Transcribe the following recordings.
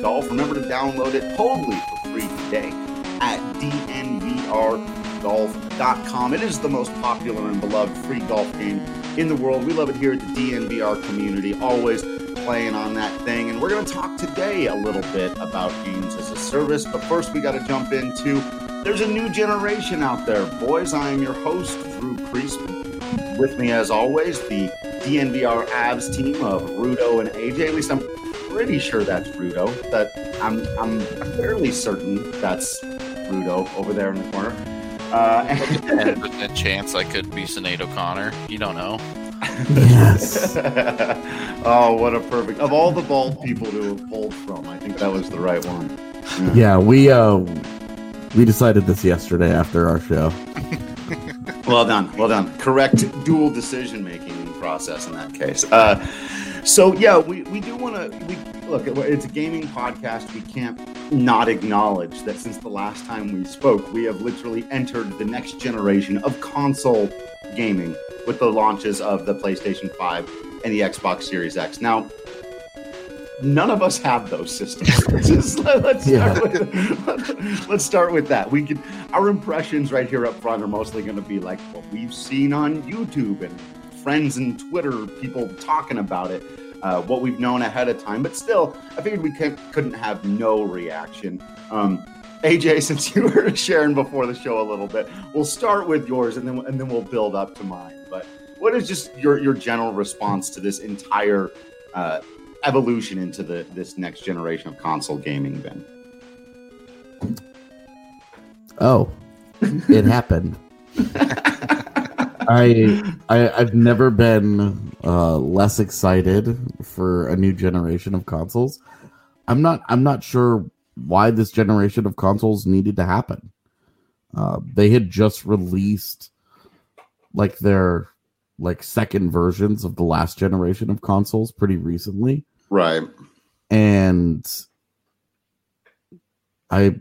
Golf. Remember to download it totally for free today at dnvrgolf.com. It is the most popular and beloved free golf game in the world. We love it here at the DNVR community, always playing on that thing. And we're going to talk today a little bit about games as a service. But first, we got to jump into, there's a new generation out there, boys. I am your host, Drew Priestman. With me, as always, the DNVR Avs team of Rudo and AJ. At least I'm pretty sure that's Rudo. That I'm fairly certain that's Rudo over there in the corner. And a chance I could be Sinead O'Connor. You don't know. Yes. Oh, what a perfect. Of all the bald people to have pulled from, I think that was the right one. Yeah, we decided this yesterday after our show. Well done. Correct dual decision-making process in that case. So, yeah, we do want to... Look, it's a gaming podcast. We can't not acknowledge that since the last time we spoke, we have literally entered the next generation of console gaming with the launches of the PlayStation 5 and the Xbox Series X. Now, none of us have those systems. Let's start with that. Our impressions right here up front are mostly going to be like what we've seen on YouTube and friends and Twitter, people talking about it, what we've known ahead of time. But still, I figured we couldn't have no reaction. AJ, since you were sharing before the show a little bit, we'll start with yours and then we'll build up to mine. But what is just your general response to this entire evolution into this next generation of console gaming, Ben? Oh, it happened. I've never been less excited for a new generation of consoles. I'm not sure why this generation of consoles needed to happen. They had just released their second versions of the last generation of consoles pretty recently. Right. And I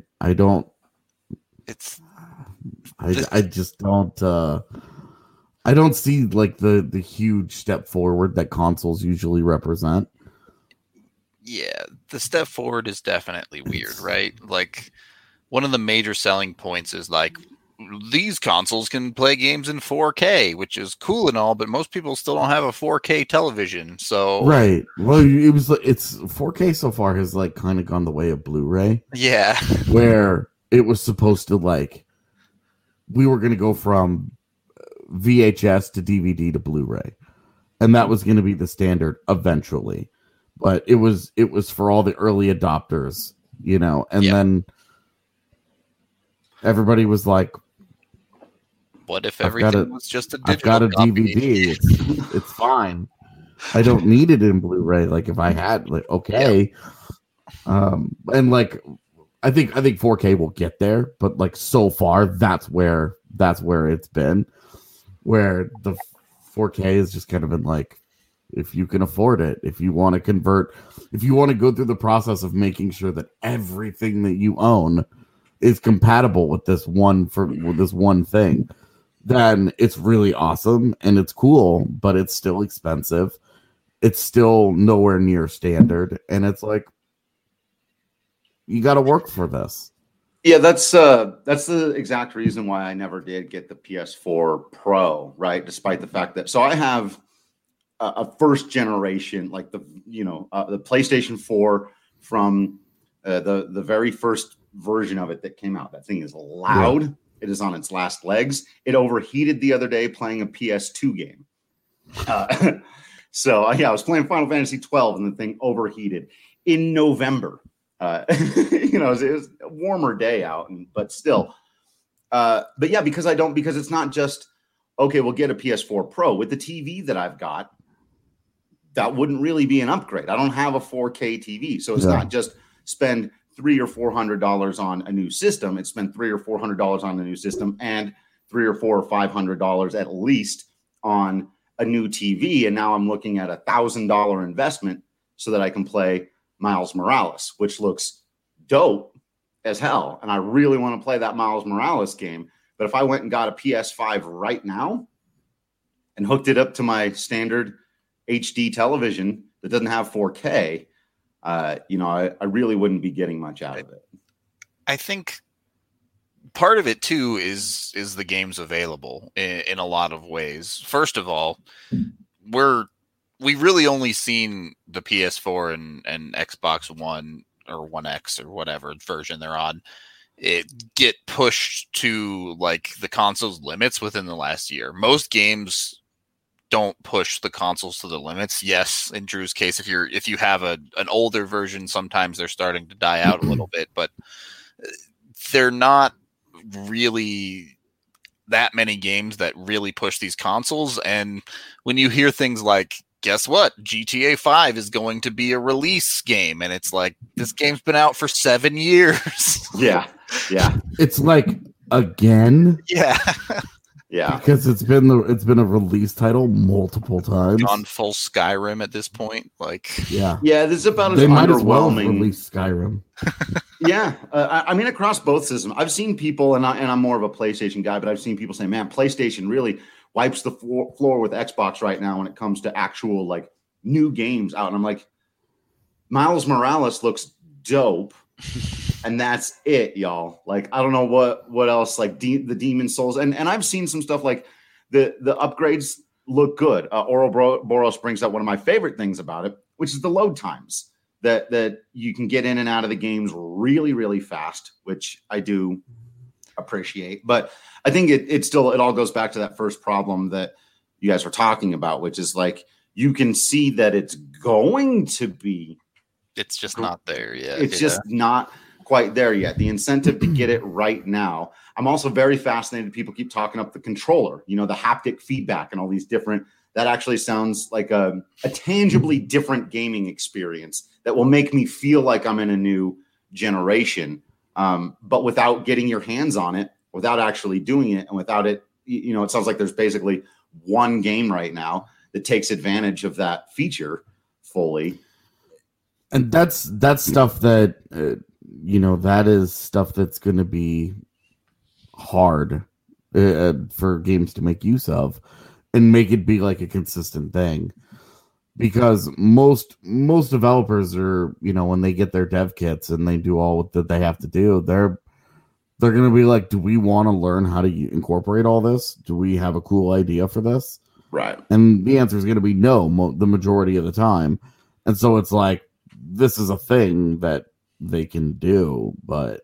just don't I don't see the huge step forward that consoles usually represent. Yeah, the step forward is definitely weird, right? Like, one of the major selling points is these consoles can play games in 4K, which is cool and all, but most people still don't have a 4K television. So right. Well, it's 4K so far has kind of gone the way of Blu-ray. Yeah. Where it was supposed to we were going to go from VHS to DVD to Blu-ray, and that was going to be the standard eventually. But it was for all the early adopters, and then everybody was like, what if everything was just a digital I've got a copy? DVD. It's fine. I don't need it in Blu-ray. If I had, okay. Yeah. And I think 4K will get there, but so far that's where it's been, where the 4K has just kind of been if you can afford it, if you want to convert, if you want to go through the process of making sure that everything that you own is compatible with this one thing, then it's really awesome and it's cool, but it's still expensive. It's still nowhere near standard, and it's you got to work for this. Yeah, that's the exact reason why I never did get the PS4 Pro, right? Despite the fact that I have a first generation, the PlayStation 4 from the very first version of it that came out. That thing is loud. Yeah. It is on its last legs. It overheated the other day playing a PS2 game. So I was playing Final Fantasy 12 and the thing overheated in November. It was a warmer day out, but still. But yeah, because it's not just, okay, we'll get a PS4 Pro. With the TV that I've got, that wouldn't really be an upgrade. I don't have a 4K TV. So it's not just spend $300 or $400 on a new system. It's spend $300 or $400 on a new system and $300 or $400 or $500 at least on a new TV. And now I'm looking at $1,000 investment so that I can play Miles Morales, which looks dope as hell. And I really want to play that Miles Morales game. But if I went and got a PS5 right now and hooked it up to my standard HD television that doesn't have 4K, I really wouldn't be getting much out of it. I think part of it too is the games available in a lot of ways. First of all, we've really only seen the PS4 and Xbox One or One X or whatever version they're on it get pushed to like the console's limits within the last year. Most games don't push the consoles to the limits. Yes, in Drew's case, if you have an older version, sometimes they're starting to die out a little bit, but they're not really that many games that really push these consoles. And when you hear things like, guess what, GTA 5 is going to be a release game, and it's like, this game's been out for 7 years. Yeah. It's like, again? Yeah. Yeah. Because it's been a release title multiple times. On full Skyrim at this point. Like, yeah. Yeah, this is about as they might as well underwhelming. release Skyrim. Yeah. I mean, across both systems, I've seen people, and I'm more of a PlayStation guy, but I've seen people say, man, PlayStation really wipes the floor with Xbox right now when it comes to actual like new games out. And I'm like, Miles Morales looks dope. And that's it, y'all. Like, I don't know what else, like the Demon Souls. And I've seen some stuff like the upgrades look good. Ouroboros brings up one of my favorite things about it, which is the load times that you can get in and out of the games really, really fast, which I do appreciate. But I think it all goes back to that first problem that you guys were talking about, which is like, you can see that it's going to be. It's just not there yet. It's just not quite there yet. The incentive to get it right now. I'm also very fascinated. People keep talking up the controller, the haptic feedback and all these different, that actually sounds like a tangibly different gaming experience that will make me feel like I'm in a new generation. But without getting your hands on it, without actually doing it, and without it, it sounds like there's basically one game right now that takes advantage of that feature fully. And that's stuff that, that is stuff that's going to be hard for games to make use of and make it be like a consistent thing. Because most developers are, when they get their dev kits and they do all that they have to do, they're going to be like, do we want to learn how to incorporate all this? Do we have a cool idea for this? Right. And the answer is going to be no, the majority of the time. And so it's like, this is a thing that they can do, but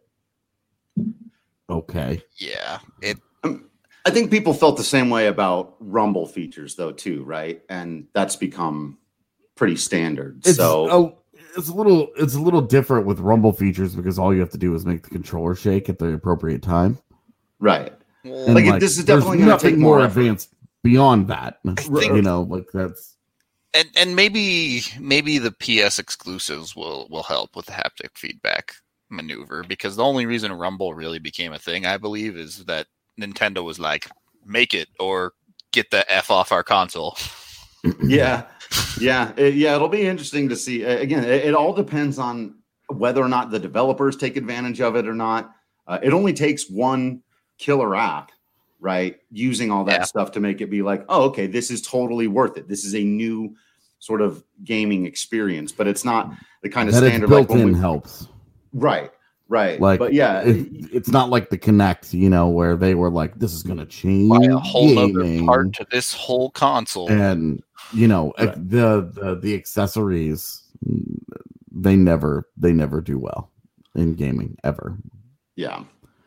okay. Yeah. I think people felt the same way about Rumble features though, too. Right. And that's become pretty standard. It's a little different with Rumble features because all you have to do is make the controller shake at the appropriate time. Right. And like this is definitely going to take more effort. advanced beyond that. Think, like that's. And maybe the PS exclusives will help with the haptic feedback maneuver, because the only reason Rumble really became a thing, I believe, is that Nintendo was like, make it or get the F off our console. Yeah. It'll be interesting to see. Again, it all depends on whether or not the developers take advantage of it or not. It only takes one killer app, right? Using all that stuff to make it be like, oh, okay, this is totally worth it. This is a new sort of gaming experience, but it's not the kind of that standard it's built in helps. Right. Like, but yeah, it's not like the Kinect, where they were like, this is going to change a whole other part to this whole console. And right. the accessories, they never do well in gaming ever. Yeah.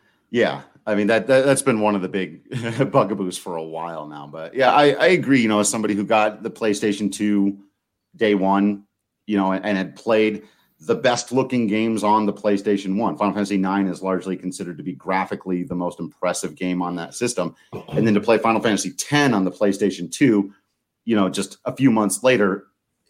I mean, that's been one of the big bugaboos for a while now. But yeah, I agree. As somebody who got the PlayStation 2 day one, and had played the best looking games on the PlayStation 1. Final Fantasy 9 is largely considered to be graphically the most impressive game on that system. And then to play Final Fantasy 10 on the PlayStation 2, just a few months later,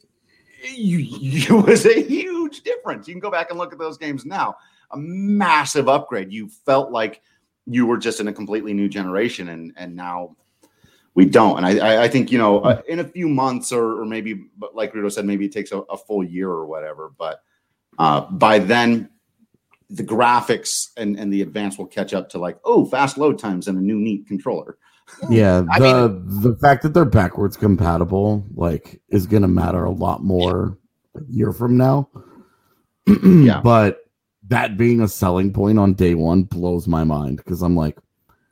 it was a huge difference. You can go back and look at those games now. A massive upgrade. You felt like you were just in a completely new generation, and now we don't. And I think, in a few months or maybe, but like Rudo said, maybe it takes a full year or whatever. But by then, the graphics and the advance will catch up to like, oh, fast load times and a new neat controller. Yeah, the fact that they're backwards compatible is going to matter a lot more a year from now. Yeah. But that being a selling point on day one blows my mind because I'm like,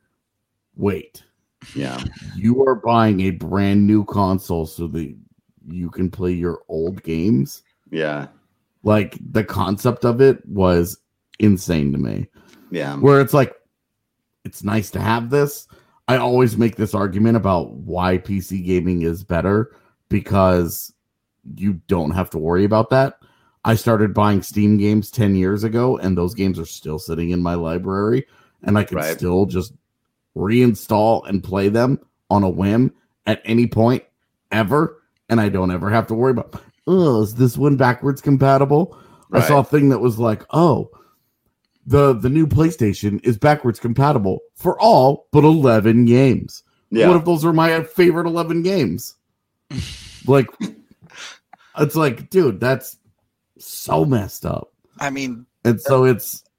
wait, Yeah. you are buying a brand new console so that you can play your old games? Yeah. Like, the concept of it was insane to me. Yeah. Where it's like, it's nice to have this. I always make this argument about why PC gaming is better because you don't have to worry about that. I started buying Steam games 10 years ago, and those games are still sitting in my library, and I can still just reinstall and play them on a whim at any point ever, and I don't ever have to worry about, oh, is this one backwards compatible? I saw a thing that was like, oh, the new PlayStation is backwards compatible for all but 11 games. Yeah. What if those are my favorite 11 games? Like, it's like, dude, that's so messed up. I mean, and so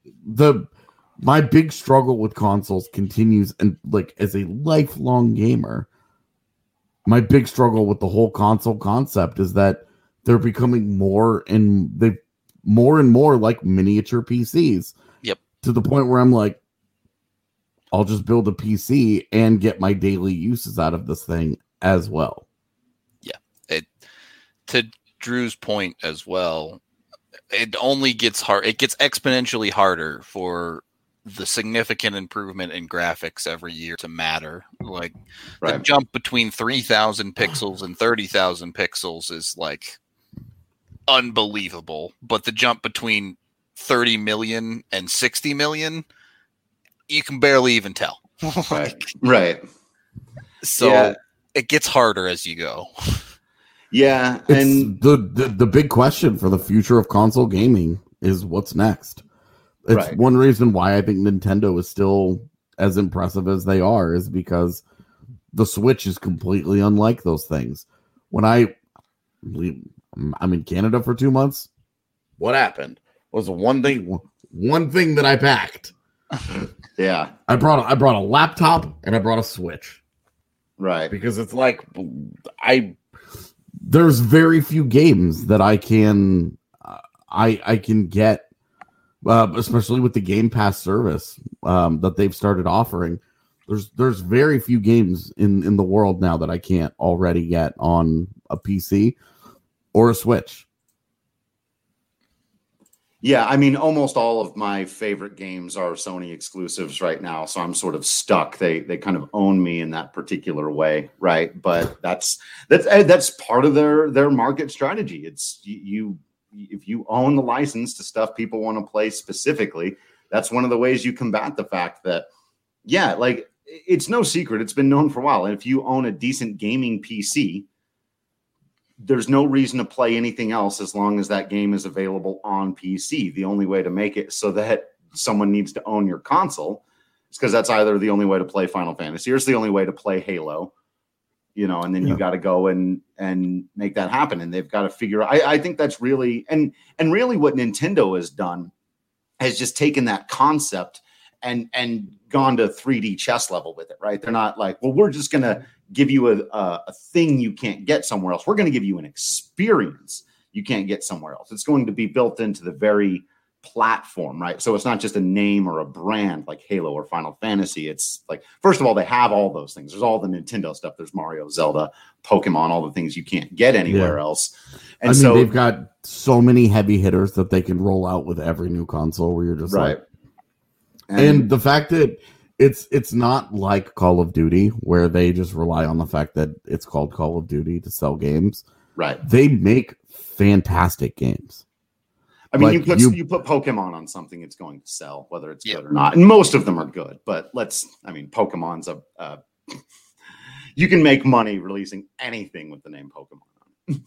my big struggle with consoles continues, and like as a lifelong gamer, my big struggle with the whole console concept is that they're becoming more and more like miniature PCs. Yep. To the point where I'm like, I'll just build a PC and get my daily uses out of this thing as well. Yeah. To Drew's point as well, it only gets hard. It gets exponentially harder for the significant improvement in graphics every year to matter. Like the jump between 3,000 pixels and 30,000 pixels is like unbelievable. But the jump between 30 million and 60 million, you can barely even tell. Right. So it gets harder as you go. Yeah, and the big question for the future of console gaming is what's next. It's one reason why I think Nintendo is still as impressive as they are is because the Switch is completely unlike those things. When I'm in Canada for 2 months, what happened was one thing that I packed. Yeah, I brought a laptop and I brought a Switch. Right, because it's like there's very few games that I can get, especially with the Game Pass service that they've started offering. There's very few games in the world now that I can't already get on a PC or a Switch. Yeah, I mean, almost all of my favorite games are Sony exclusives right now, so I'm sort of stuck. They kind of own me in that particular way, right? But that's part of their market strategy. It's you if you own the license to stuff people want to play specifically, that's one of the ways you combat the fact that, yeah, like it's no secret. It's been known for a while. And if you own a decent gaming PC, there's no reason to play anything else as long as that game is available on PC. The only way to make it so that someone needs to own your console is because that's either the only way to play Final Fantasy or it's the only way to play Halo, and then you got to go and make that happen. And they've got to figure out, I think that's really, and really what Nintendo has done has just taken that concept and gone to 3D chess level with it, right? They're not like, well, we're just going to give you a thing you can't get somewhere else. We're going to give you an experience you can't get somewhere else. It's going to be built into the very platform, right? So it's not just a name or a brand like Halo or Final Fantasy. It's like, first of all, they have all those things. There's all the Nintendo stuff. There's Mario, Zelda, Pokemon, all the things you can't get anywhere else. And so they've got so many heavy hitters that they can roll out with every new console where you're just like, and the fact that it's not like Call of Duty where they just rely on the fact that it's called Call of Duty to sell games. Right. They make fantastic games. I mean, you put Pokemon on something, it's going to sell, whether it's good or not. And most of them are good, but Pokemon's you can make money releasing anything with the name Pokemon on.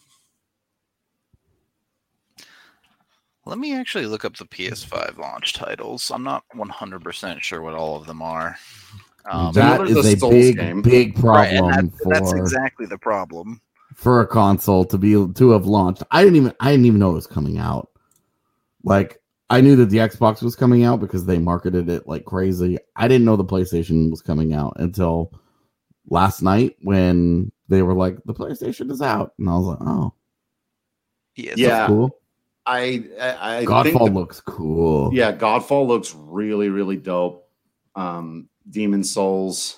Let me actually look up the PS5 launch titles. I'm not 100% sure what all of them are. That is a big problem. Right, that's exactly the problem for a console to have launched. I didn't even know it was coming out. Like, I knew that the Xbox was coming out because they marketed it like crazy. I didn't know the PlayStation was coming out until last night when they were like, the PlayStation is out, and I was like, oh, yeah, that's cool. I think Godfall looks cool. Yeah, Godfall looks really, really dope. Demon Souls,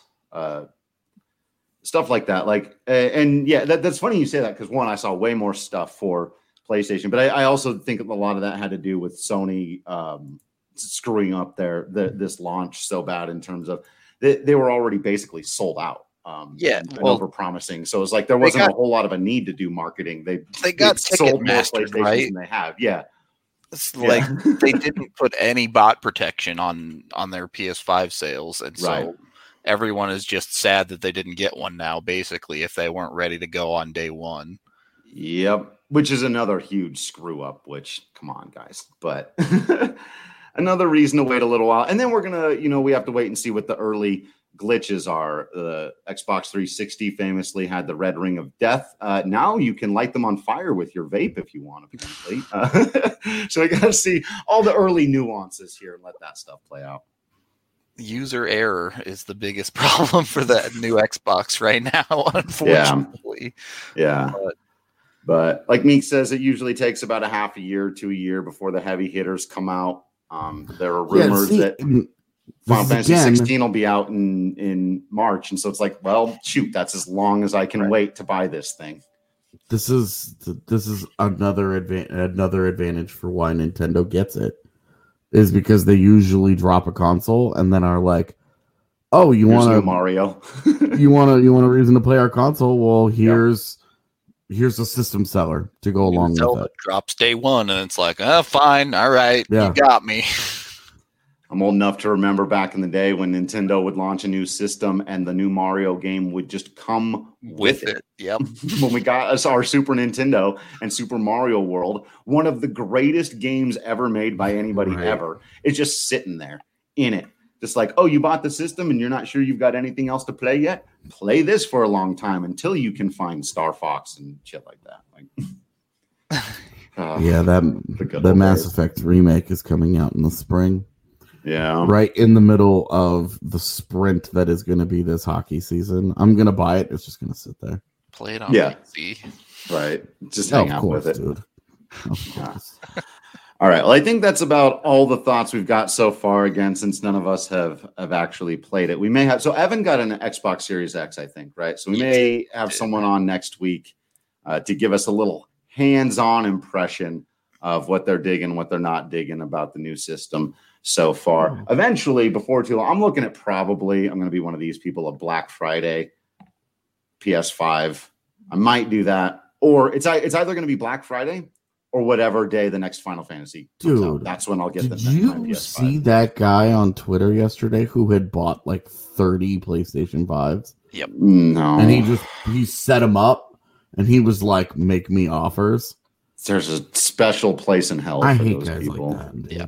stuff like that. Like, and yeah, that's funny you say that because one, I saw way more stuff for PlayStation, but I also think a lot of that had to do with Sony screwing up this launch so bad in terms of they were already basically sold out. And over promising. So it's like there wasn't a whole lot of a need to do marketing. They got sold more mastered, PlayStations right? than they have. Yeah. It's like they didn't put any bot protection on their PS5 sales, and so everyone is just sad that they didn't get one now, basically, if they weren't ready to go on day one. Yep. Which is another huge screw up, which, come on, guys. But another reason to wait a little while. And then we're going to, we have to wait and see what the early glitches are. The Xbox 360 famously had the red ring of death. Now you can light them on fire with your vape if you want, apparently. So I got to see all the early nuances here and let that stuff play out. User error is the biggest problem for that new Xbox right now, unfortunately. Yeah. But like Meek says, it usually takes about a half a year to a year before the heavy hitters come out. There are rumors that Final Fantasy 16 will be out in March. And so it's like, well, shoot, that's as long as I can wait to buy this thing. This is another advantage for why Nintendo gets it, is because they usually drop a console and then are like, oh, you want Mario? you want a reason to play our console? Well, here's a system seller to go along with it. Drops day one, and it's like, oh, fine, all right, you got me. I'm old enough to remember back in the day when Nintendo would launch a new system and the new Mario game would just come with it. Yep. When we got us our Super Nintendo and Super Mario World, one of the greatest games ever made by anybody ever, is just sitting there in it. Just like, oh, you bought the system and you're not sure you've got anything else to play yet? Play this for a long time until you can find Star Fox and shit like that. The Mass Effect remake is coming out in the spring. Yeah. Right in the middle of the sprint that is going to be this hockey season. I'm going to buy it. It's just going to sit there. Play it on PC. Right. Just hang out with it. Dude. All right. Well, I think that's about all the thoughts we've got so far, again, since none of us have actually played it. We may have. So Evan got an Xbox Series X, I think, right? So we may have someone on next week to give us a little hands-on impression of what they're digging, what they're not digging about the new system so far. Eventually, before too long, I'm looking at I'm going to be one of these people, a Black Friday PS5. I might do that. Or it's either going to be Black Friday or whatever day the next Final Fantasy comes out. That's when I'll get the PS5. Did you see that guy on Twitter yesterday who had bought like 30 PlayStation 5s? Yep. No. And he set them up and he was like, make me offers. There's a special place in hell for those people. Like that, yep.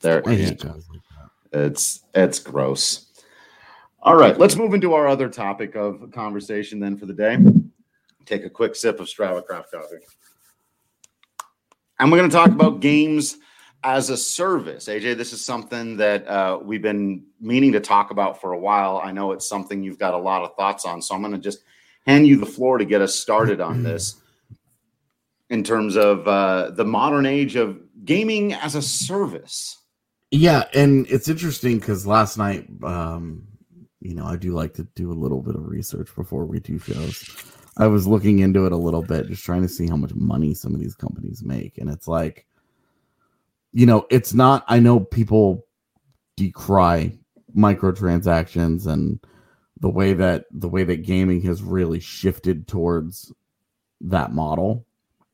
It's gross. All right, let's move into our other topic of conversation then for the day. Take a quick sip of Strava Craft coffee. And we're going to talk about games as a service. AJ, this is something that we've been meaning to talk about for a while. I know it's something you've got a lot of thoughts on, so I'm going to just hand you the floor to get us started on this in terms of the modern age of gaming as a service. Yeah, and it's interesting because last night, I do like to do a little bit of research before we do shows. I was looking into it a little bit, just trying to see how much money some of these companies make. And it's like, it's not, I know people decry microtransactions and the way that gaming has really shifted towards that model.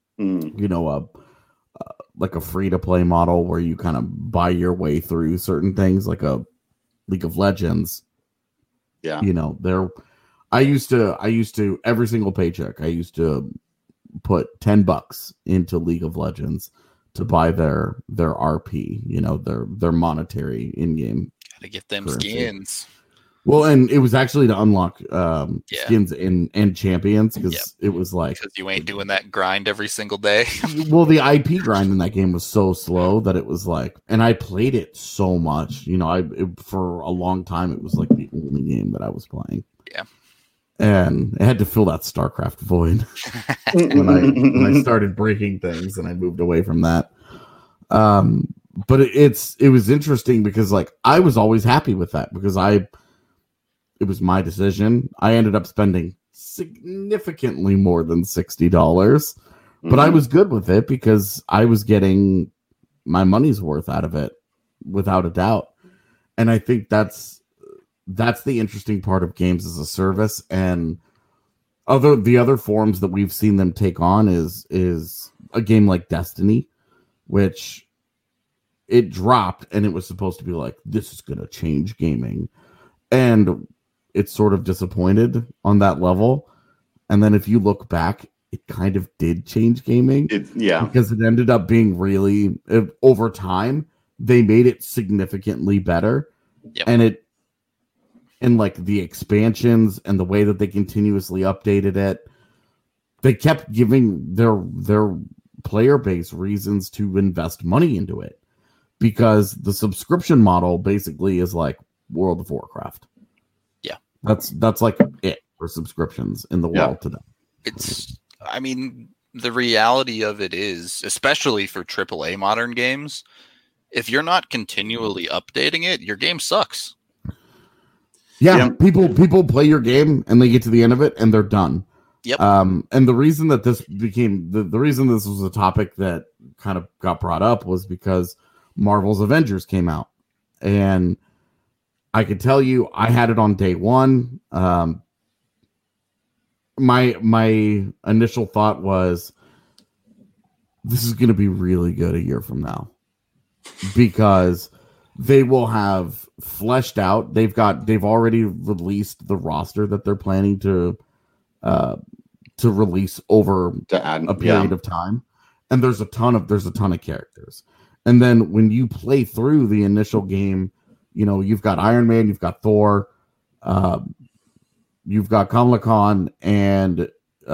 Like a free-to-play model where you kind of buy your way through certain things, like a League of Legends. Yeah. I used to every single paycheck, I used to put $10 into League of Legends to buy their RP, their monetary in-game. Gotta get them currency. Skins. Well, and it was actually to unlock skins and champions because it was like... Because you ain't doing that grind every single day. Well, the IP grind in that game was so slow that it was like... And I played it so much. For a long time, it was like the only game that I was playing. Yeah. And I had to fill that StarCraft void when I started breaking things and I moved away from that. But it was interesting because like I was always happy with that because it was my decision. I ended up spending significantly more than $60, but I was good with it because I was getting my money's worth out of it without a doubt. And I think that's the interesting part of games as a service. And the other forms that we've seen them take on is a game like Destiny, which it dropped and it was supposed to be like, this is going to change gaming. And it's sort of disappointed on that level. And then if you look back, it kind of did change gaming. Because it ended up being really, over time, they made it significantly better. Yep. And like the expansions and the way that they continuously updated it, they kept giving their player base reasons to invest money into it. Because the subscription model basically is like World of Warcraft. Yeah. That's like it for subscriptions in the world today. I mean, the reality of it is, especially for AAA modern games, if you're not continually updating it, your game sucks. Yeah. People play your game and they get to the end of it and they're done. Yep. And the reason that this became the reason this was a topic that kind of got brought up was because Marvel's Avengers came out, and I could tell you I had it on day one. My initial thought was this is going to be really good a year from now because they will have fleshed out. They've already released the roster that they're planning to release over a period of time, and there's a ton of characters. And then when you play through the initial game, you know, you've got Iron Man, you've got Thor, you've got Kamala Khan, and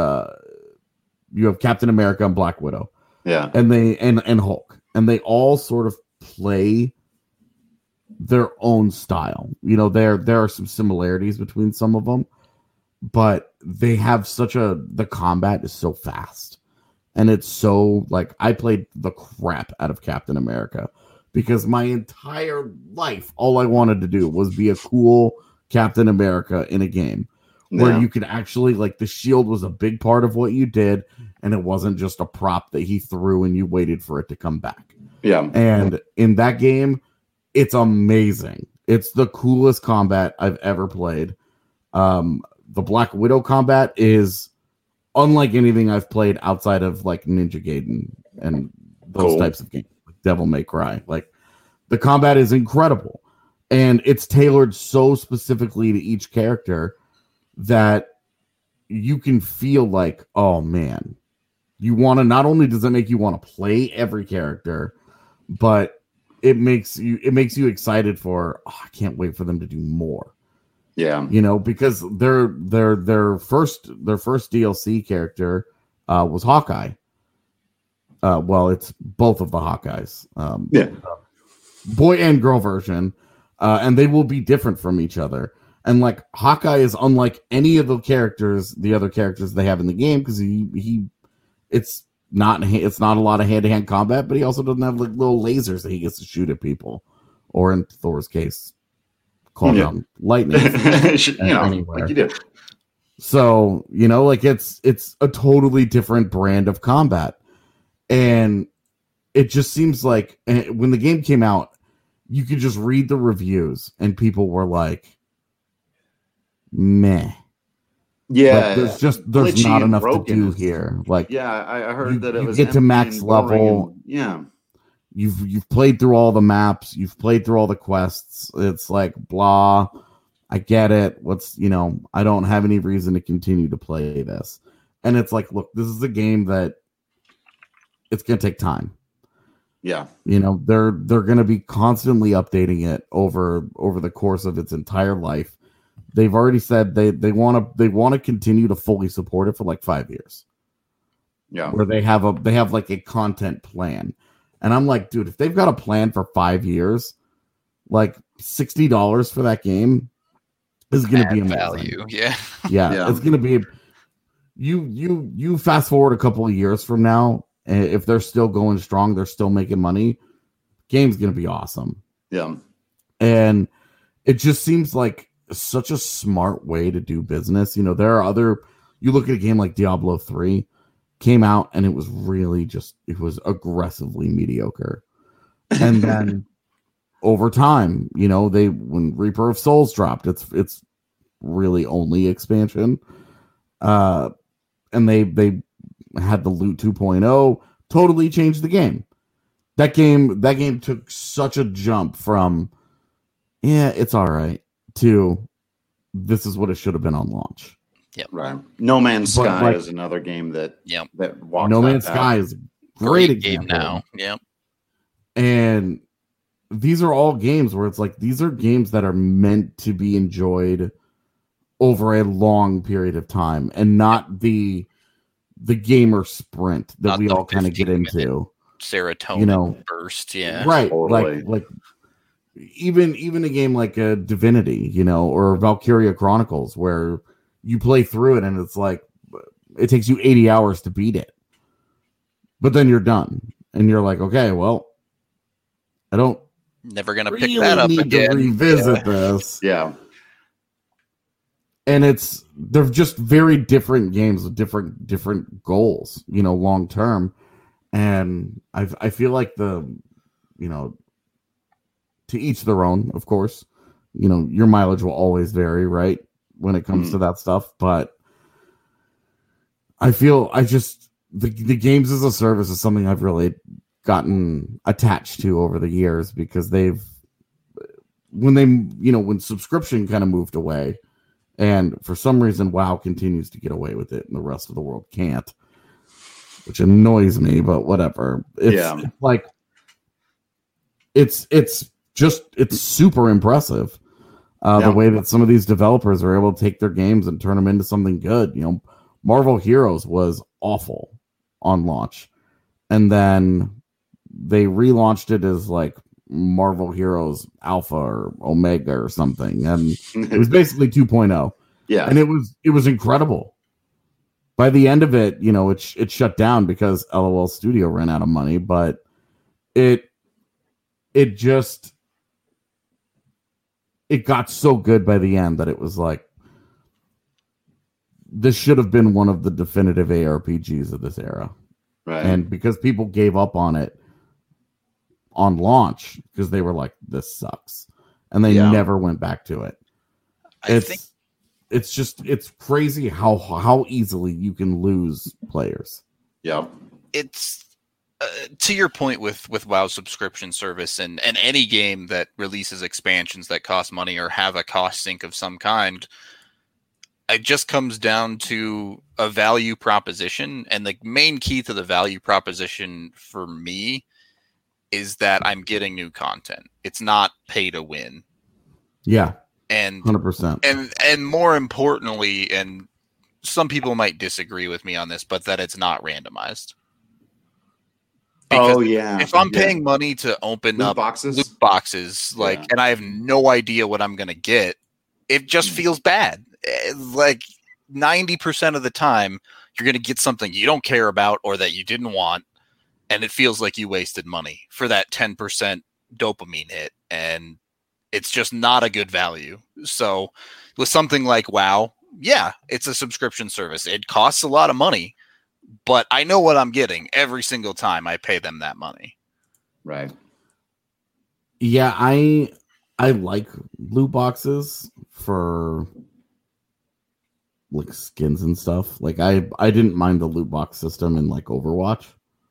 you have Captain America and Black Widow. Yeah. And they and Hulk. And they all sort of play their own style. You know, there are some similarities between some of them, but they have the combat is so fast. And it's so, like, I played the crap out of Captain America because my entire life, all I wanted to do was be a cool Captain America in a game where you could actually, like, the shield was a big part of what you did, and it wasn't just a prop that he threw and you waited for it to come back. Yeah. And in that game, it's amazing. It's the coolest combat I've ever played. The Black Widow combat is unlike anything I've played outside of like Ninja Gaiden and those types of games, like Devil May Cry. Like the combat is incredible, and it's tailored so specifically to each character that you can feel like, oh man, you want to. Not only does it make you want to play every character, but it makes you excited for. Oh, I can't wait for them to do more. Yeah, you know, because their first DLC character was Hawkeye. Well, it's both of the Hawkeyes, boy and girl version, and they will be different from each other. And like Hawkeye is unlike any of the other characters they have in the game because it's not a lot of hand to hand combat, but he also doesn't have like little lasers that he gets to shoot at people, or in Thor's case, call down lightning anywhere. Like you do. So, you know, like it's a totally different brand of combat. And it just seems like when the game came out, you could just read the reviews and people were like, meh. Yeah. Like, there's not enough to do here. Like, yeah, I heard that it was get to max level. You've played through all the maps, you've played through all the quests. It's like blah. I get it. I don't have any reason to continue to play this. And it's like, look, this is a game that it's gonna take time. Yeah. You know, they're gonna be constantly updating it over the course of its entire life. They've already said they want to continue to fully support it for like 5 years. Yeah. Where they have like a content plan. And I'm like, dude, if they've got a plan for 5 years, like $60 for that game is going to be amazing. Value. Yeah. It's going to be. You fast forward a couple of years from now, And if they're still going strong, they're still making money, game's going to be awesome. Yeah. And it just seems like such a smart way to do business. You know, there are you look at a game like Diablo 3 came out and it was really it was aggressively mediocre. And then over time, you know, when Reaper of Souls dropped, it's really only expansion. And they had the Loot 2.0, totally changed the game. That game took such a jump from, yeah, it's all right, to this is what it should have been on launch. Yep. Right. No Man's Sky is another game that walks No Man's Sky is a great game now. Yep. And these are all games where it's like, these are games that are meant to be enjoyed over a long period of time and not the gamer sprint that we all kind of get into. Serotonin, you know, burst. Yeah. Right. Totally. Like even a game like a Divinity, you know, or Valkyria Chronicles, where you play through it and it's like, it takes you 80 hours to beat it, but then you're done and you're like, okay, well, I don't never gonna really pick that up need again. to revisit this. Yeah. And they're just very different games with different goals, you know, long term. And I feel like you know, to each their own, of course, you know, your mileage will always vary, right, when it comes to that stuff. But I feel the games as a service is something I've really gotten attached to over the years, because when subscription kind of moved away, and for some reason WoW continues to get away with it and the rest of the world can't, which annoys me, but whatever. It's like it's super impressive the way that some of these developers are able to take their games and turn them into something good. You know, Marvel Heroes was awful on launch, and then they relaunched it as like Marvel Heroes Alpha or Omega or something, and it was basically 2.0. Yeah, and it was incredible. By the end of it, you know, it shut down because LOL Studio ran out of money, but it got so good by the end that it was like, this should have been one of the definitive ARPGs of this era. Right. And because people gave up on it on launch because they were like, this sucks, and they never went back to it. It's crazy how easily you can lose players. Yeah. It's to your point with WoW subscription service and any game that releases expansions that cost money or have a cost sink of some kind, it just comes down to a value proposition. And the main key to the value proposition for me is that I'm getting new content. It's not pay to win. Yeah. And 100%. And more importantly, and some people might disagree with me on this, but that it's not randomized. Because if I'm paying money to open loot up boxes, and I have no idea what I'm going to get, it just feels bad. Like 90% of the time, you're going to get something you don't care about or that you didn't want, and it feels like you wasted money for that 10% dopamine hit, and it's just not a good value. So with something like WoW, yeah, it's a subscription service. It costs a lot of money, but I know what I'm getting every single time I pay them that money. Right. Yeah, I like loot boxes for like skins and stuff. Like I didn't mind the loot box system in like Overwatch.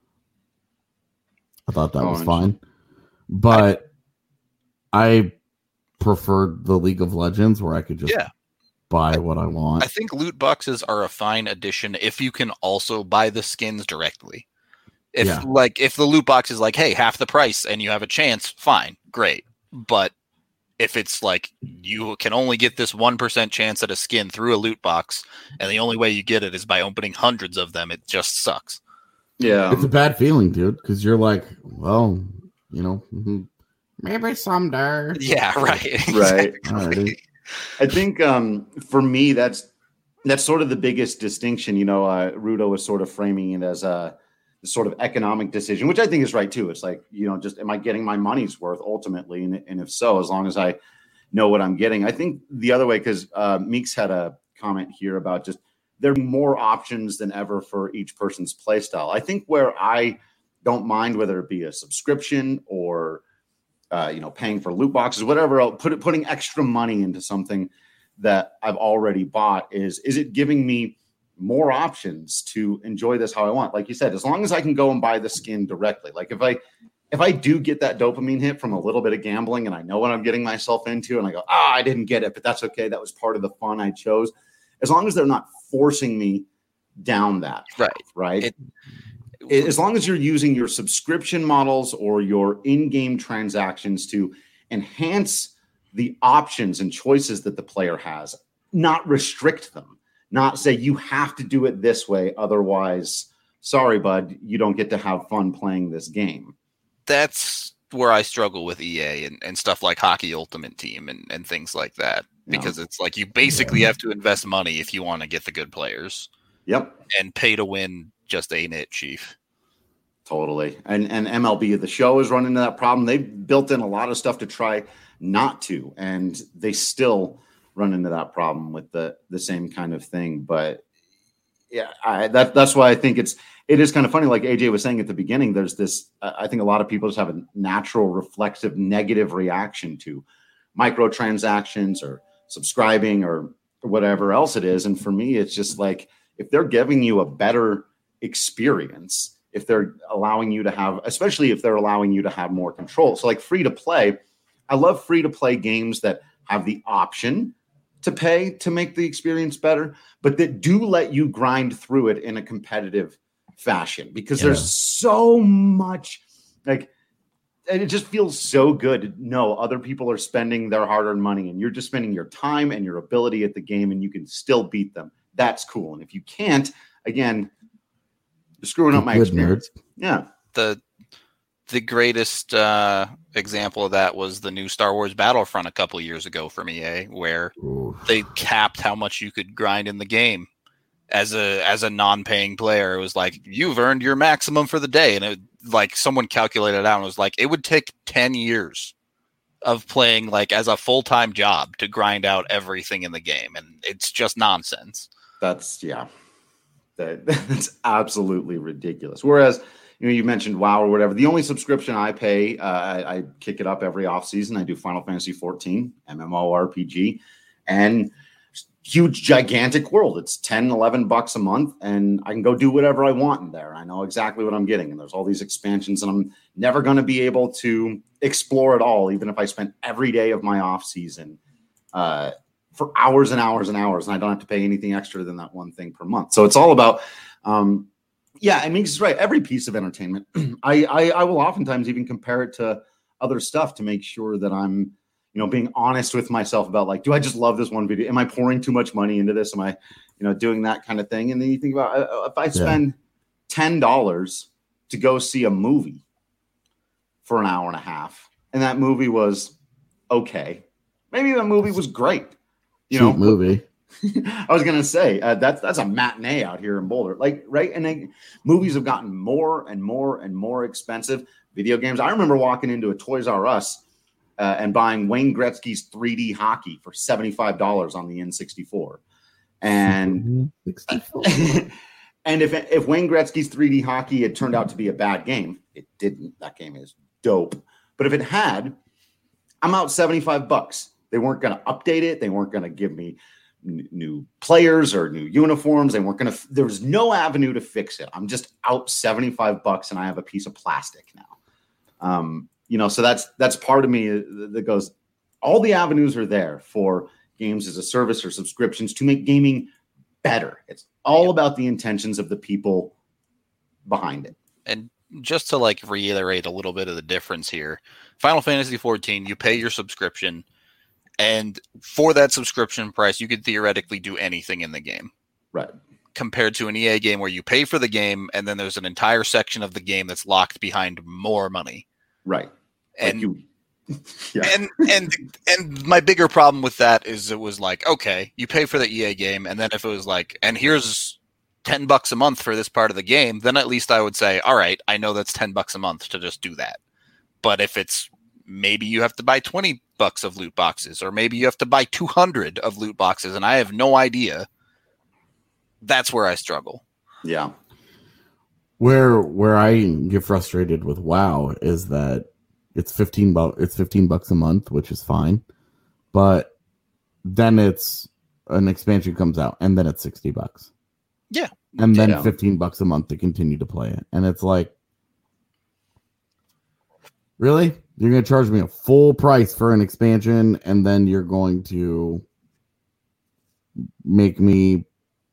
I thought that was fine. But I preferred the League of Legends where I could just buy what I want. I think loot boxes are a fine addition if you can also buy the skins directly. If the loot box is like, hey, half the price and you have a chance, fine, great. But if it's like you can only get this 1% chance at a skin through a loot box, and the only way you get it is by opening hundreds of them, it just sucks. Yeah. It's a bad feeling, dude, because you're like, well, you know, maybe someday. Yeah, right. Right. Right. I think for me, that's sort of the biggest distinction. You know, Rudo was sort of framing it as sort of economic decision, which I think is right too. It's like, just am I getting my money's worth ultimately? And if so, as long as I know what I'm getting. I think the other way, because Meeks had a comment here about just there are more options than ever for each person's play style. I think where I don't mind whether it be a subscription or paying for loot boxes, whatever else, putting extra money into something that I've already bought is it giving me more options to enjoy this how I want? Like you said, as long as I can go and buy the skin directly. Like if I do get that dopamine hit from a little bit of gambling and I know what I'm getting myself into and I go, I didn't get it, but that's okay. That was part of the fun I chose. As long as they're not forcing me down that path, right? As long as you're using your subscription models or your in-game transactions to enhance the options and choices that the player has, not restrict them, not say you have to do it this way. Otherwise, sorry, bud, you don't get to have fun playing this game. That's where I struggle with EA and stuff like Hockey Ultimate Team and things like that, because it's like you basically have to invest money if you want to get the good players. Yep. And pay to win just ain't it, Chief. Totally. And MLB The Show is running into that problem. They've built in a lot of stuff to try not to, and they still run into that problem with the same kind of thing. But yeah, that's why I think it is kind of funny. Like AJ was saying at the beginning, there's this, I think a lot of people just have a natural reflexive negative reaction to microtransactions or subscribing or whatever else it is. And for me, it's just like, if they're giving you a better experience, if they're allowing you to have, especially if they're allowing you to have more control. So like free to play, I love free to play games that have the option to pay to make the experience better, but that do let you grind through it in a competitive fashion, because there's so much, like, and it just feels so good to know other people are spending their hard-earned money and you're just spending your time and your ability at the game and you can still beat them. That's cool. And if you can't, again, you're screwing up my experience. Yeah. The greatest example of that was the new Star Wars Battlefront a couple years ago from EA, where they capped how much you could grind in the game as a non-paying player. It was like, you've earned your maximum for the day. And it, like, someone calculated it out and was like, it would take 10 years of playing like as a full-time job to grind out everything in the game. And it's just nonsense. That's absolutely ridiculous. Whereas, you mentioned WoW or whatever. The only subscription I pay, I kick it up every off season. I do Final Fantasy 14, MMORPG, and huge, gigantic world. It's $10-11 a month, and I can go do whatever I want in there. I know exactly what I'm getting, and there's all these expansions, and I'm never going to be able to explore it all, even if I spent every day of my off season for hours and hours and hours, and I don't have to pay anything extra than that one thing per month. So it's all about yeah, I mean, he's right. Every piece of entertainment, I will oftentimes even compare it to other stuff to make sure that I'm, being honest with myself about, like, do I just love this one video? Am I pouring too much money into this? Am I, doing that kind of thing? And then you think about, if I spend $10 to go see a movie for an hour and a half, and that movie was okay, maybe the movie was great, Cheap movie. I was gonna say that's a matinee out here in Boulder, like, right? And movies have gotten more and more and more expensive. Video games. I remember walking into a Toys R Us and buying Wayne Gretzky's 3D hockey for $75 on the N64, and and if Wayne Gretzky's 3D hockey had turned out to be a bad game, it didn't. That game is dope. But if it had, I'm out $75. They weren't going to update it. They weren't going to give me new players or new uniforms. They weren't going to, there was no avenue to fix it. I'm just out $75 and I have a piece of plastic now. So that's part of me that goes, all the avenues are there for games as a service or subscriptions to make gaming better. It's all about the intentions of the people behind it. And just to like reiterate a little bit of the difference here, Final Fantasy 14, you pay your subscription, and for that subscription price, you could theoretically do anything in the game. Right. Compared to an EA game where you pay for the game and then there's an entire section of the game that's locked behind more money. Right. And and my bigger problem with that is it was like, okay, you pay for the EA game, and then if it was like, and here's $10 a month for this part of the game, then at least I would say, all right, I know that's $10 a month to just do that. But if it's maybe you have to buy $20 of loot boxes, or maybe you have to buy 200 of loot boxes, and I have no idea, that's where I struggle. Yeah. Where I get frustrated with WoW is that it's $15 a month, which is fine, but then it's an expansion comes out, and then it's $60. Yeah, and then $15 a month to continue to play it, and it's like, really? You're going to charge me a full price for an expansion, and then you're going to make me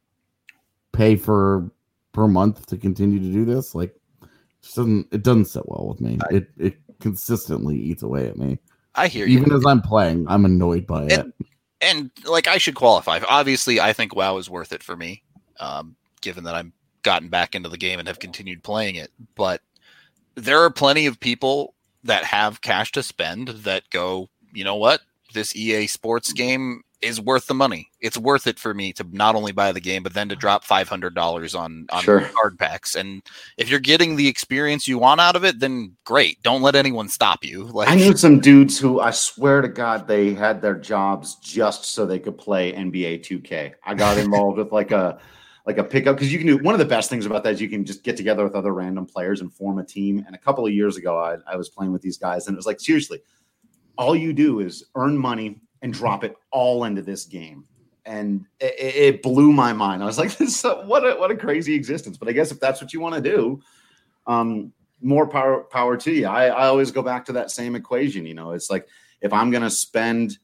pay per month to continue to do this? Like, it doesn't sit well with me. It consistently eats away at me. I hear you. Even as I'm playing, I'm annoyed by it. And like, I should qualify. Obviously, I think WoW is worth it for me, given that I've gotten back into the game and have continued playing it. But there are plenty of people that have cash to spend that go, you know what? This EA Sports game is worth the money. It's worth it for me to not only buy the game, but then to drop $500 on Sure. card packs. And if you're getting the experience you want out of it, then great. Don't let anyone stop you. Like, I knew some dudes who, I swear to God, they had their jobs just so they could play NBA 2K. I got involved with like a pickup, because you can do, one of the best things about that is you can just get together with other random players and form a team. And a couple of years ago, I was playing with these guys, and it was like, seriously, all you do is earn money and drop it all into this game. And it blew my mind. I was like, what a crazy existence. But I guess if that's what you want to do, more power to you. I always go back to that same equation. You know, it's like, if I'm going to spend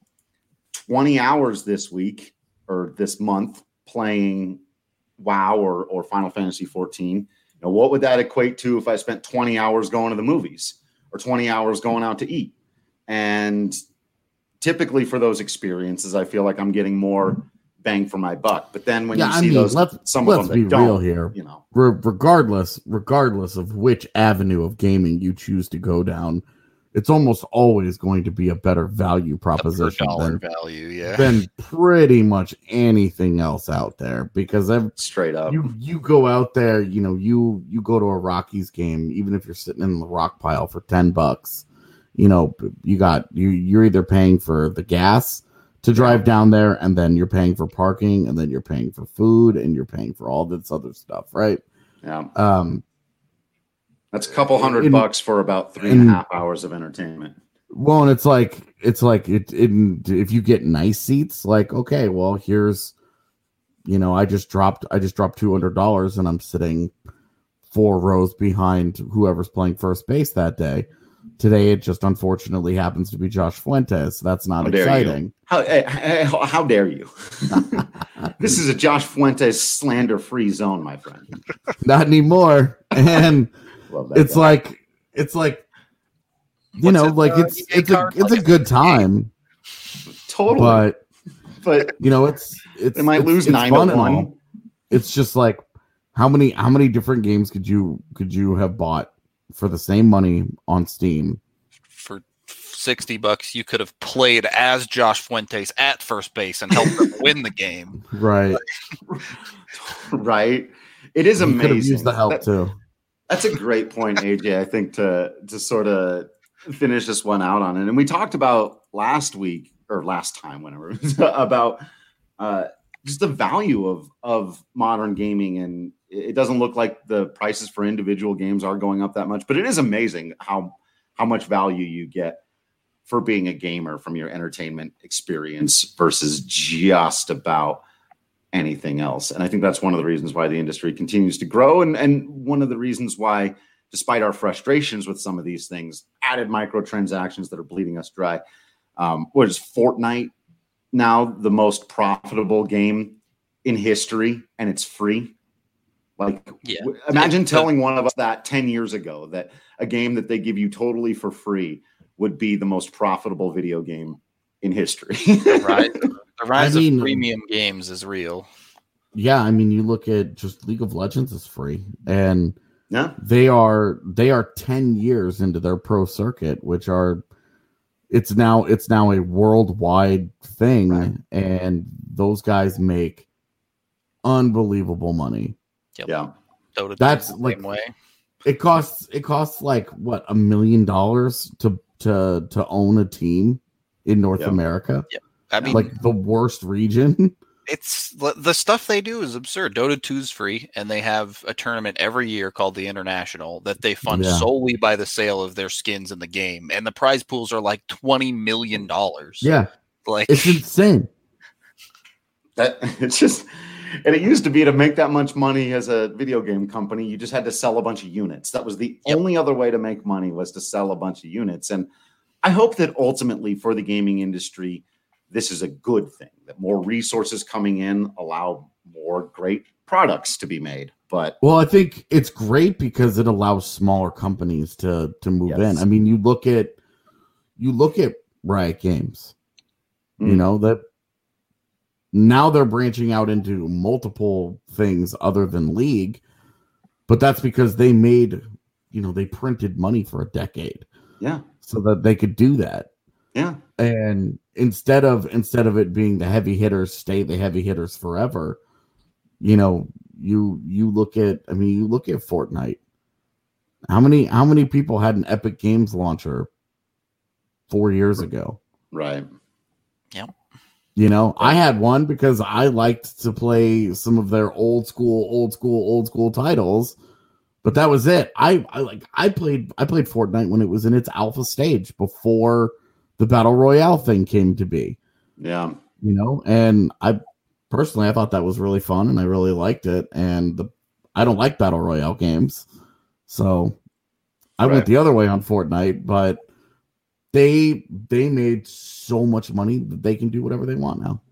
20 hours this week or this month playing WoW or Final Fantasy 14, you know, what would that equate to if I spent 20 hours going to the movies or 20 hours going out to eat? And typically for those experiences, I feel like I'm getting more bang for my buck. But then when you see those, some of them that don't, real here, you know, regardless of which avenue of gaming you choose to go down, it's almost always going to be a better value proposition than pretty much anything else out there. Because straight up, you go out there, you know, you go to a Rockies game, even if you're sitting in the rock pile for $10, you know, you're either paying for the gas to drive down there, and then you're paying for parking, and then you're paying for food, and you're paying for all this other stuff, right? Yeah. That's a couple $100 for about 3.5 hours of entertainment. Well, and it's like if you get nice seats, like, okay, well, here's, you know, I just dropped $200 and I'm sitting 4 rows behind whoever's playing first base that day. Today, it just unfortunately happens to be Josh Fuentes. That's not exciting. How dare you? This is a Josh Fuentes slander-free zone, my friend. Not anymore. And it's like, you know, like it's a good time. Totally. But you know, they might lose 9-1. It's just like, how many different games could you have bought for the same money on Steam? For $60, you could have played as Josh Fuentes at first base and helped them win the game. Right. Right. It is amazing. Could have used the help too. That's a great point, AJ. I think to sort of finish this one out on it. And we talked about last time, whenever, about just the value of modern gaming. And it doesn't look like the prices for individual games are going up that much, but it is amazing how much value you get for being a gamer from your entertainment experience versus just about anything else. And I think that's one of the reasons why the industry continues to grow. And one of the reasons why, despite our frustrations with some of these things, added microtransactions that are bleeding us dry. What is Fortnite now the most profitable game in history, and it's free? Like, imagine telling one of us that 10 years ago, that a game that they give you totally for free would be the most profitable video game in history. Right. The rise of premium games is real. Yeah, I mean, you look at just League of Legends is free, and they are 10 years into their pro circuit, which it's now a worldwide thing, right. And those guys make unbelievable money. Yep. Yeah. Dota That's the like same way. it costs like what, $1 million to own a team in North America. Yep. I mean, like the worst region. It's the stuff they do is absurd. Dota 2's free, and they have a tournament every year called the International that they fund solely by the sale of their skins in the game, and the prize pools are like $20 million. Yeah, like it's insane. That it's just, and it used to be to make that much money as a video game company, you just had to sell a bunch of units. That was the only other way to make money, was to sell a bunch of units. And I hope that ultimately for the gaming industry, this is a good thing, that more resources coming in allow more great products to be made. But well, I think it's great because it allows smaller companies to move in. I mean, you look at Riot Games, you know, that now they're branching out into multiple things other than League, but that's because they made, they printed money for a decade. Yeah. So that they could do that. Yeah. And instead of it being the heavy hitters stay the heavy hitters forever, you look at Fortnite. How many people had an Epic Games launcher 4 years ago? Right. Yep. I had one because I liked to play some of their old school titles, but that was it. I played Fortnite when it was in its alpha stage before the Battle Royale thing came to be. Yeah. And I thought that was really fun and I really liked it. And I don't like Battle Royale games. So I went the other way on Fortnite, but they made so much money that they can do whatever they want now.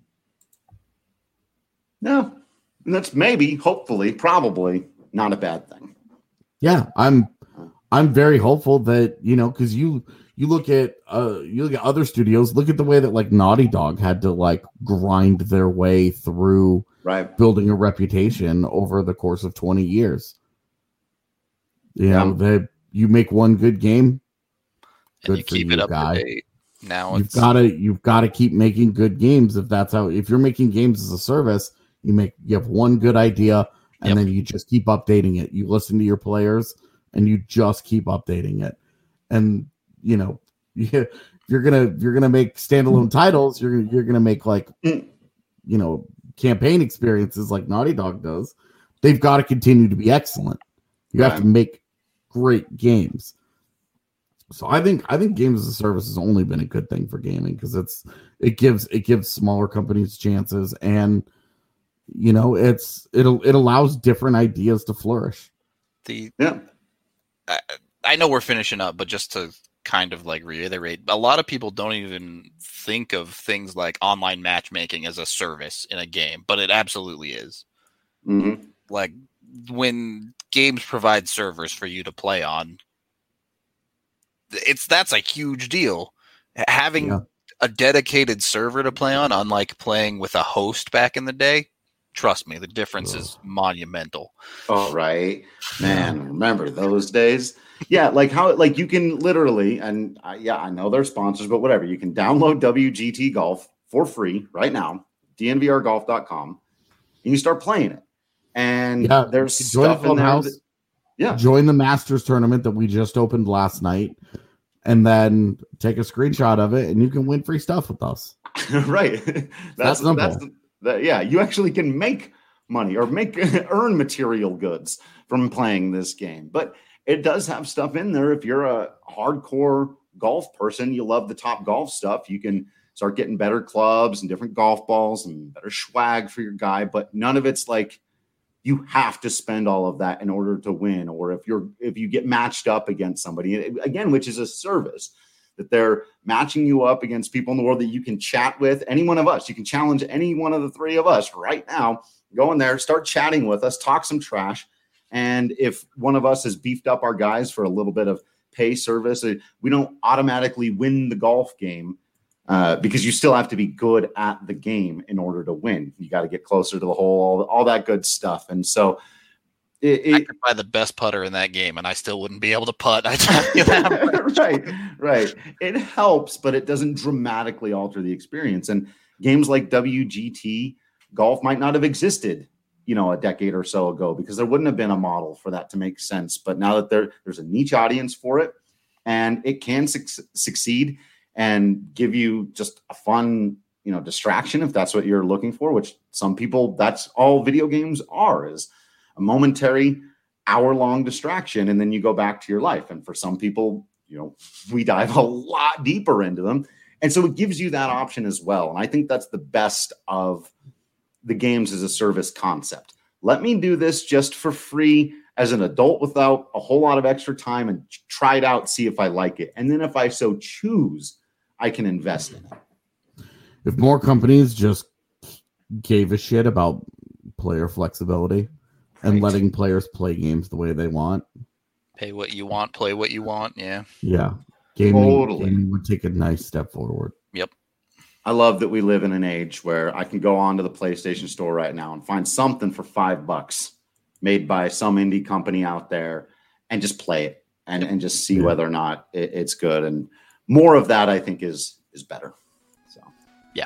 Yeah. And that's maybe, hopefully, probably not a bad thing. Yeah. I'm very hopeful that, because you look at other studios, look at the way that like Naughty Dog had to like grind their way through building a reputation over the course of 20 years. That you make one good game, and you keep it up to date. Now you've got to keep making good games. If you're making games as a service, you have one good idea and then you just keep updating it. You listen to your players and you just keep updating it. And if you're gonna make standalone titles, you're gonna make like campaign experiences like Naughty Dog does. They've got to continue to be excellent. You have to make great games. So I think games as a service has only been a good thing for gaming because it gives smaller companies chances, and it allows different ideas to flourish. I know we're finishing up, but just to kind of like reiterate, a lot of people don't even think of things like online matchmaking as a service in a game, but it absolutely is. Mm-hmm. Like when games provide servers for you to play on, that's a huge deal. Having a dedicated server to play on, unlike playing with a host back in the day, trust me, the difference is monumental. Oh, right. Man, remember those days? Yeah, like how you can literally, and I know they're sponsors, but whatever. You can download WGT Golf for free right now, dnvrgolf.com, and you start playing it. And there's stuff in there. Join the Masters tournament that we just opened last night, and then take a screenshot of it, and you can win free stuff with us. Right. That's simple. You actually can make money or earn material goods from playing this game. But it does have stuff in there. If you're a hardcore golf person, you love the top golf stuff, you can start getting better clubs and different golf balls and better swag for your guy. But none of it's like you have to spend all of that in order to win. Or if you get matched up against somebody, again, which is a service, that they're matching you up against people in the world that you can chat with. Any one of us, you can challenge any one of the three of us right now. Go in there, start chatting with us, talk some trash. And if one of us has beefed up our guys for a little bit of pay service, we don't automatically win the golf game because you still have to be good at the game in order to win. You got to get closer to the hole, all that good stuff. And so I could buy the best putter in that game and I still wouldn't be able to putt. I tell you that. Right. It helps, but it doesn't dramatically alter the experience. And games like WGT Golf might not have existed, a decade or so ago, because there wouldn't have been a model for that to make sense. But now that there's a niche audience for it, and it can succeed and give you just a fun, distraction, if that's what you're looking for, which some people, that's all video games are, is a momentary hour-long distraction, and then you go back to your life. And for some people, we dive a lot deeper into them. And so it gives you that option as well. And I think that's the best of the games as a service concept. Let me do this just for free as an adult without a whole lot of extra time and try it out, see if I like it. And then if I so choose, I can invest in it. If more companies just gave a shit about player flexibility and letting players play games the way they want. Pay what you want, play what you want. Yeah. Yeah. Gaming would take a nice step forward. Yep. I love that we live in an age where I can go onto the PlayStation Store right now and find something for $5 made by some indie company out there and just play it and just see whether or not it's good. And more of that, I think, is better. So, yeah.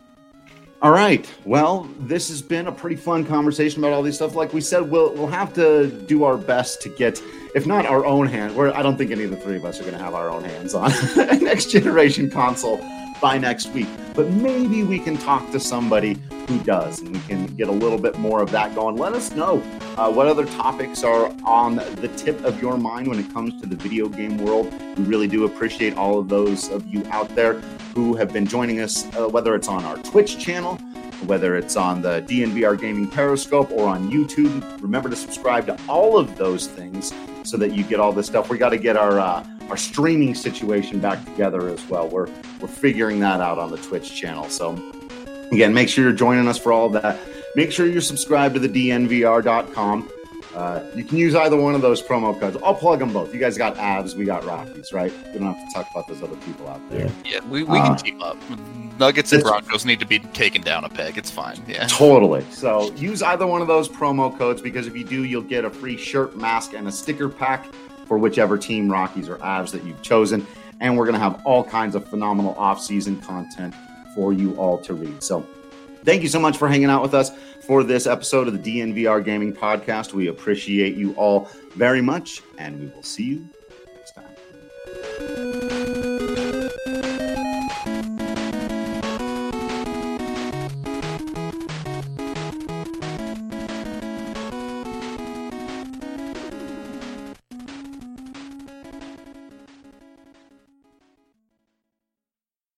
All right. Well, this has been a pretty fun conversation about all these stuff. Like we said, we'll have to do our best to get, if not our own hand, I don't think any of the three of us are going to have our own hands on a next generation console by next week. But maybe we can talk to somebody who does, and we can get a little bit more of that going. Let us know what other topics are on the tip of your mind when it comes to the video game world. We really do appreciate all of those of you out there who have been joining us, whether it's on our Twitch channel, whether it's on the DNVR Gaming Periscope or on YouTube. Remember to subscribe to all of those things so that you get all this stuff. We got to get our streaming situation back together as well. We're figuring that out on the Twitch channel. So again, make sure you're joining us for all of that. Make sure you're subscribed to the DNVR.com. You can use either one of those promo codes. I'll plug them both. You guys got Avs, we got Rockies, right? We don't have to talk about those other people out there. Yeah, we can team up. Nuggets and Broncos need to be taken down a peg. It's fine. Yeah, totally. So use either one of those promo codes, because if you do, you'll get a free shirt, mask, and a sticker pack for whichever team, Rockies or Avs, that you've chosen. And we're going to have all kinds of phenomenal off-season content for you all to read. So thank you so much for hanging out with us for this episode of the DNVR Gaming Podcast. We appreciate you all very much, and we will see you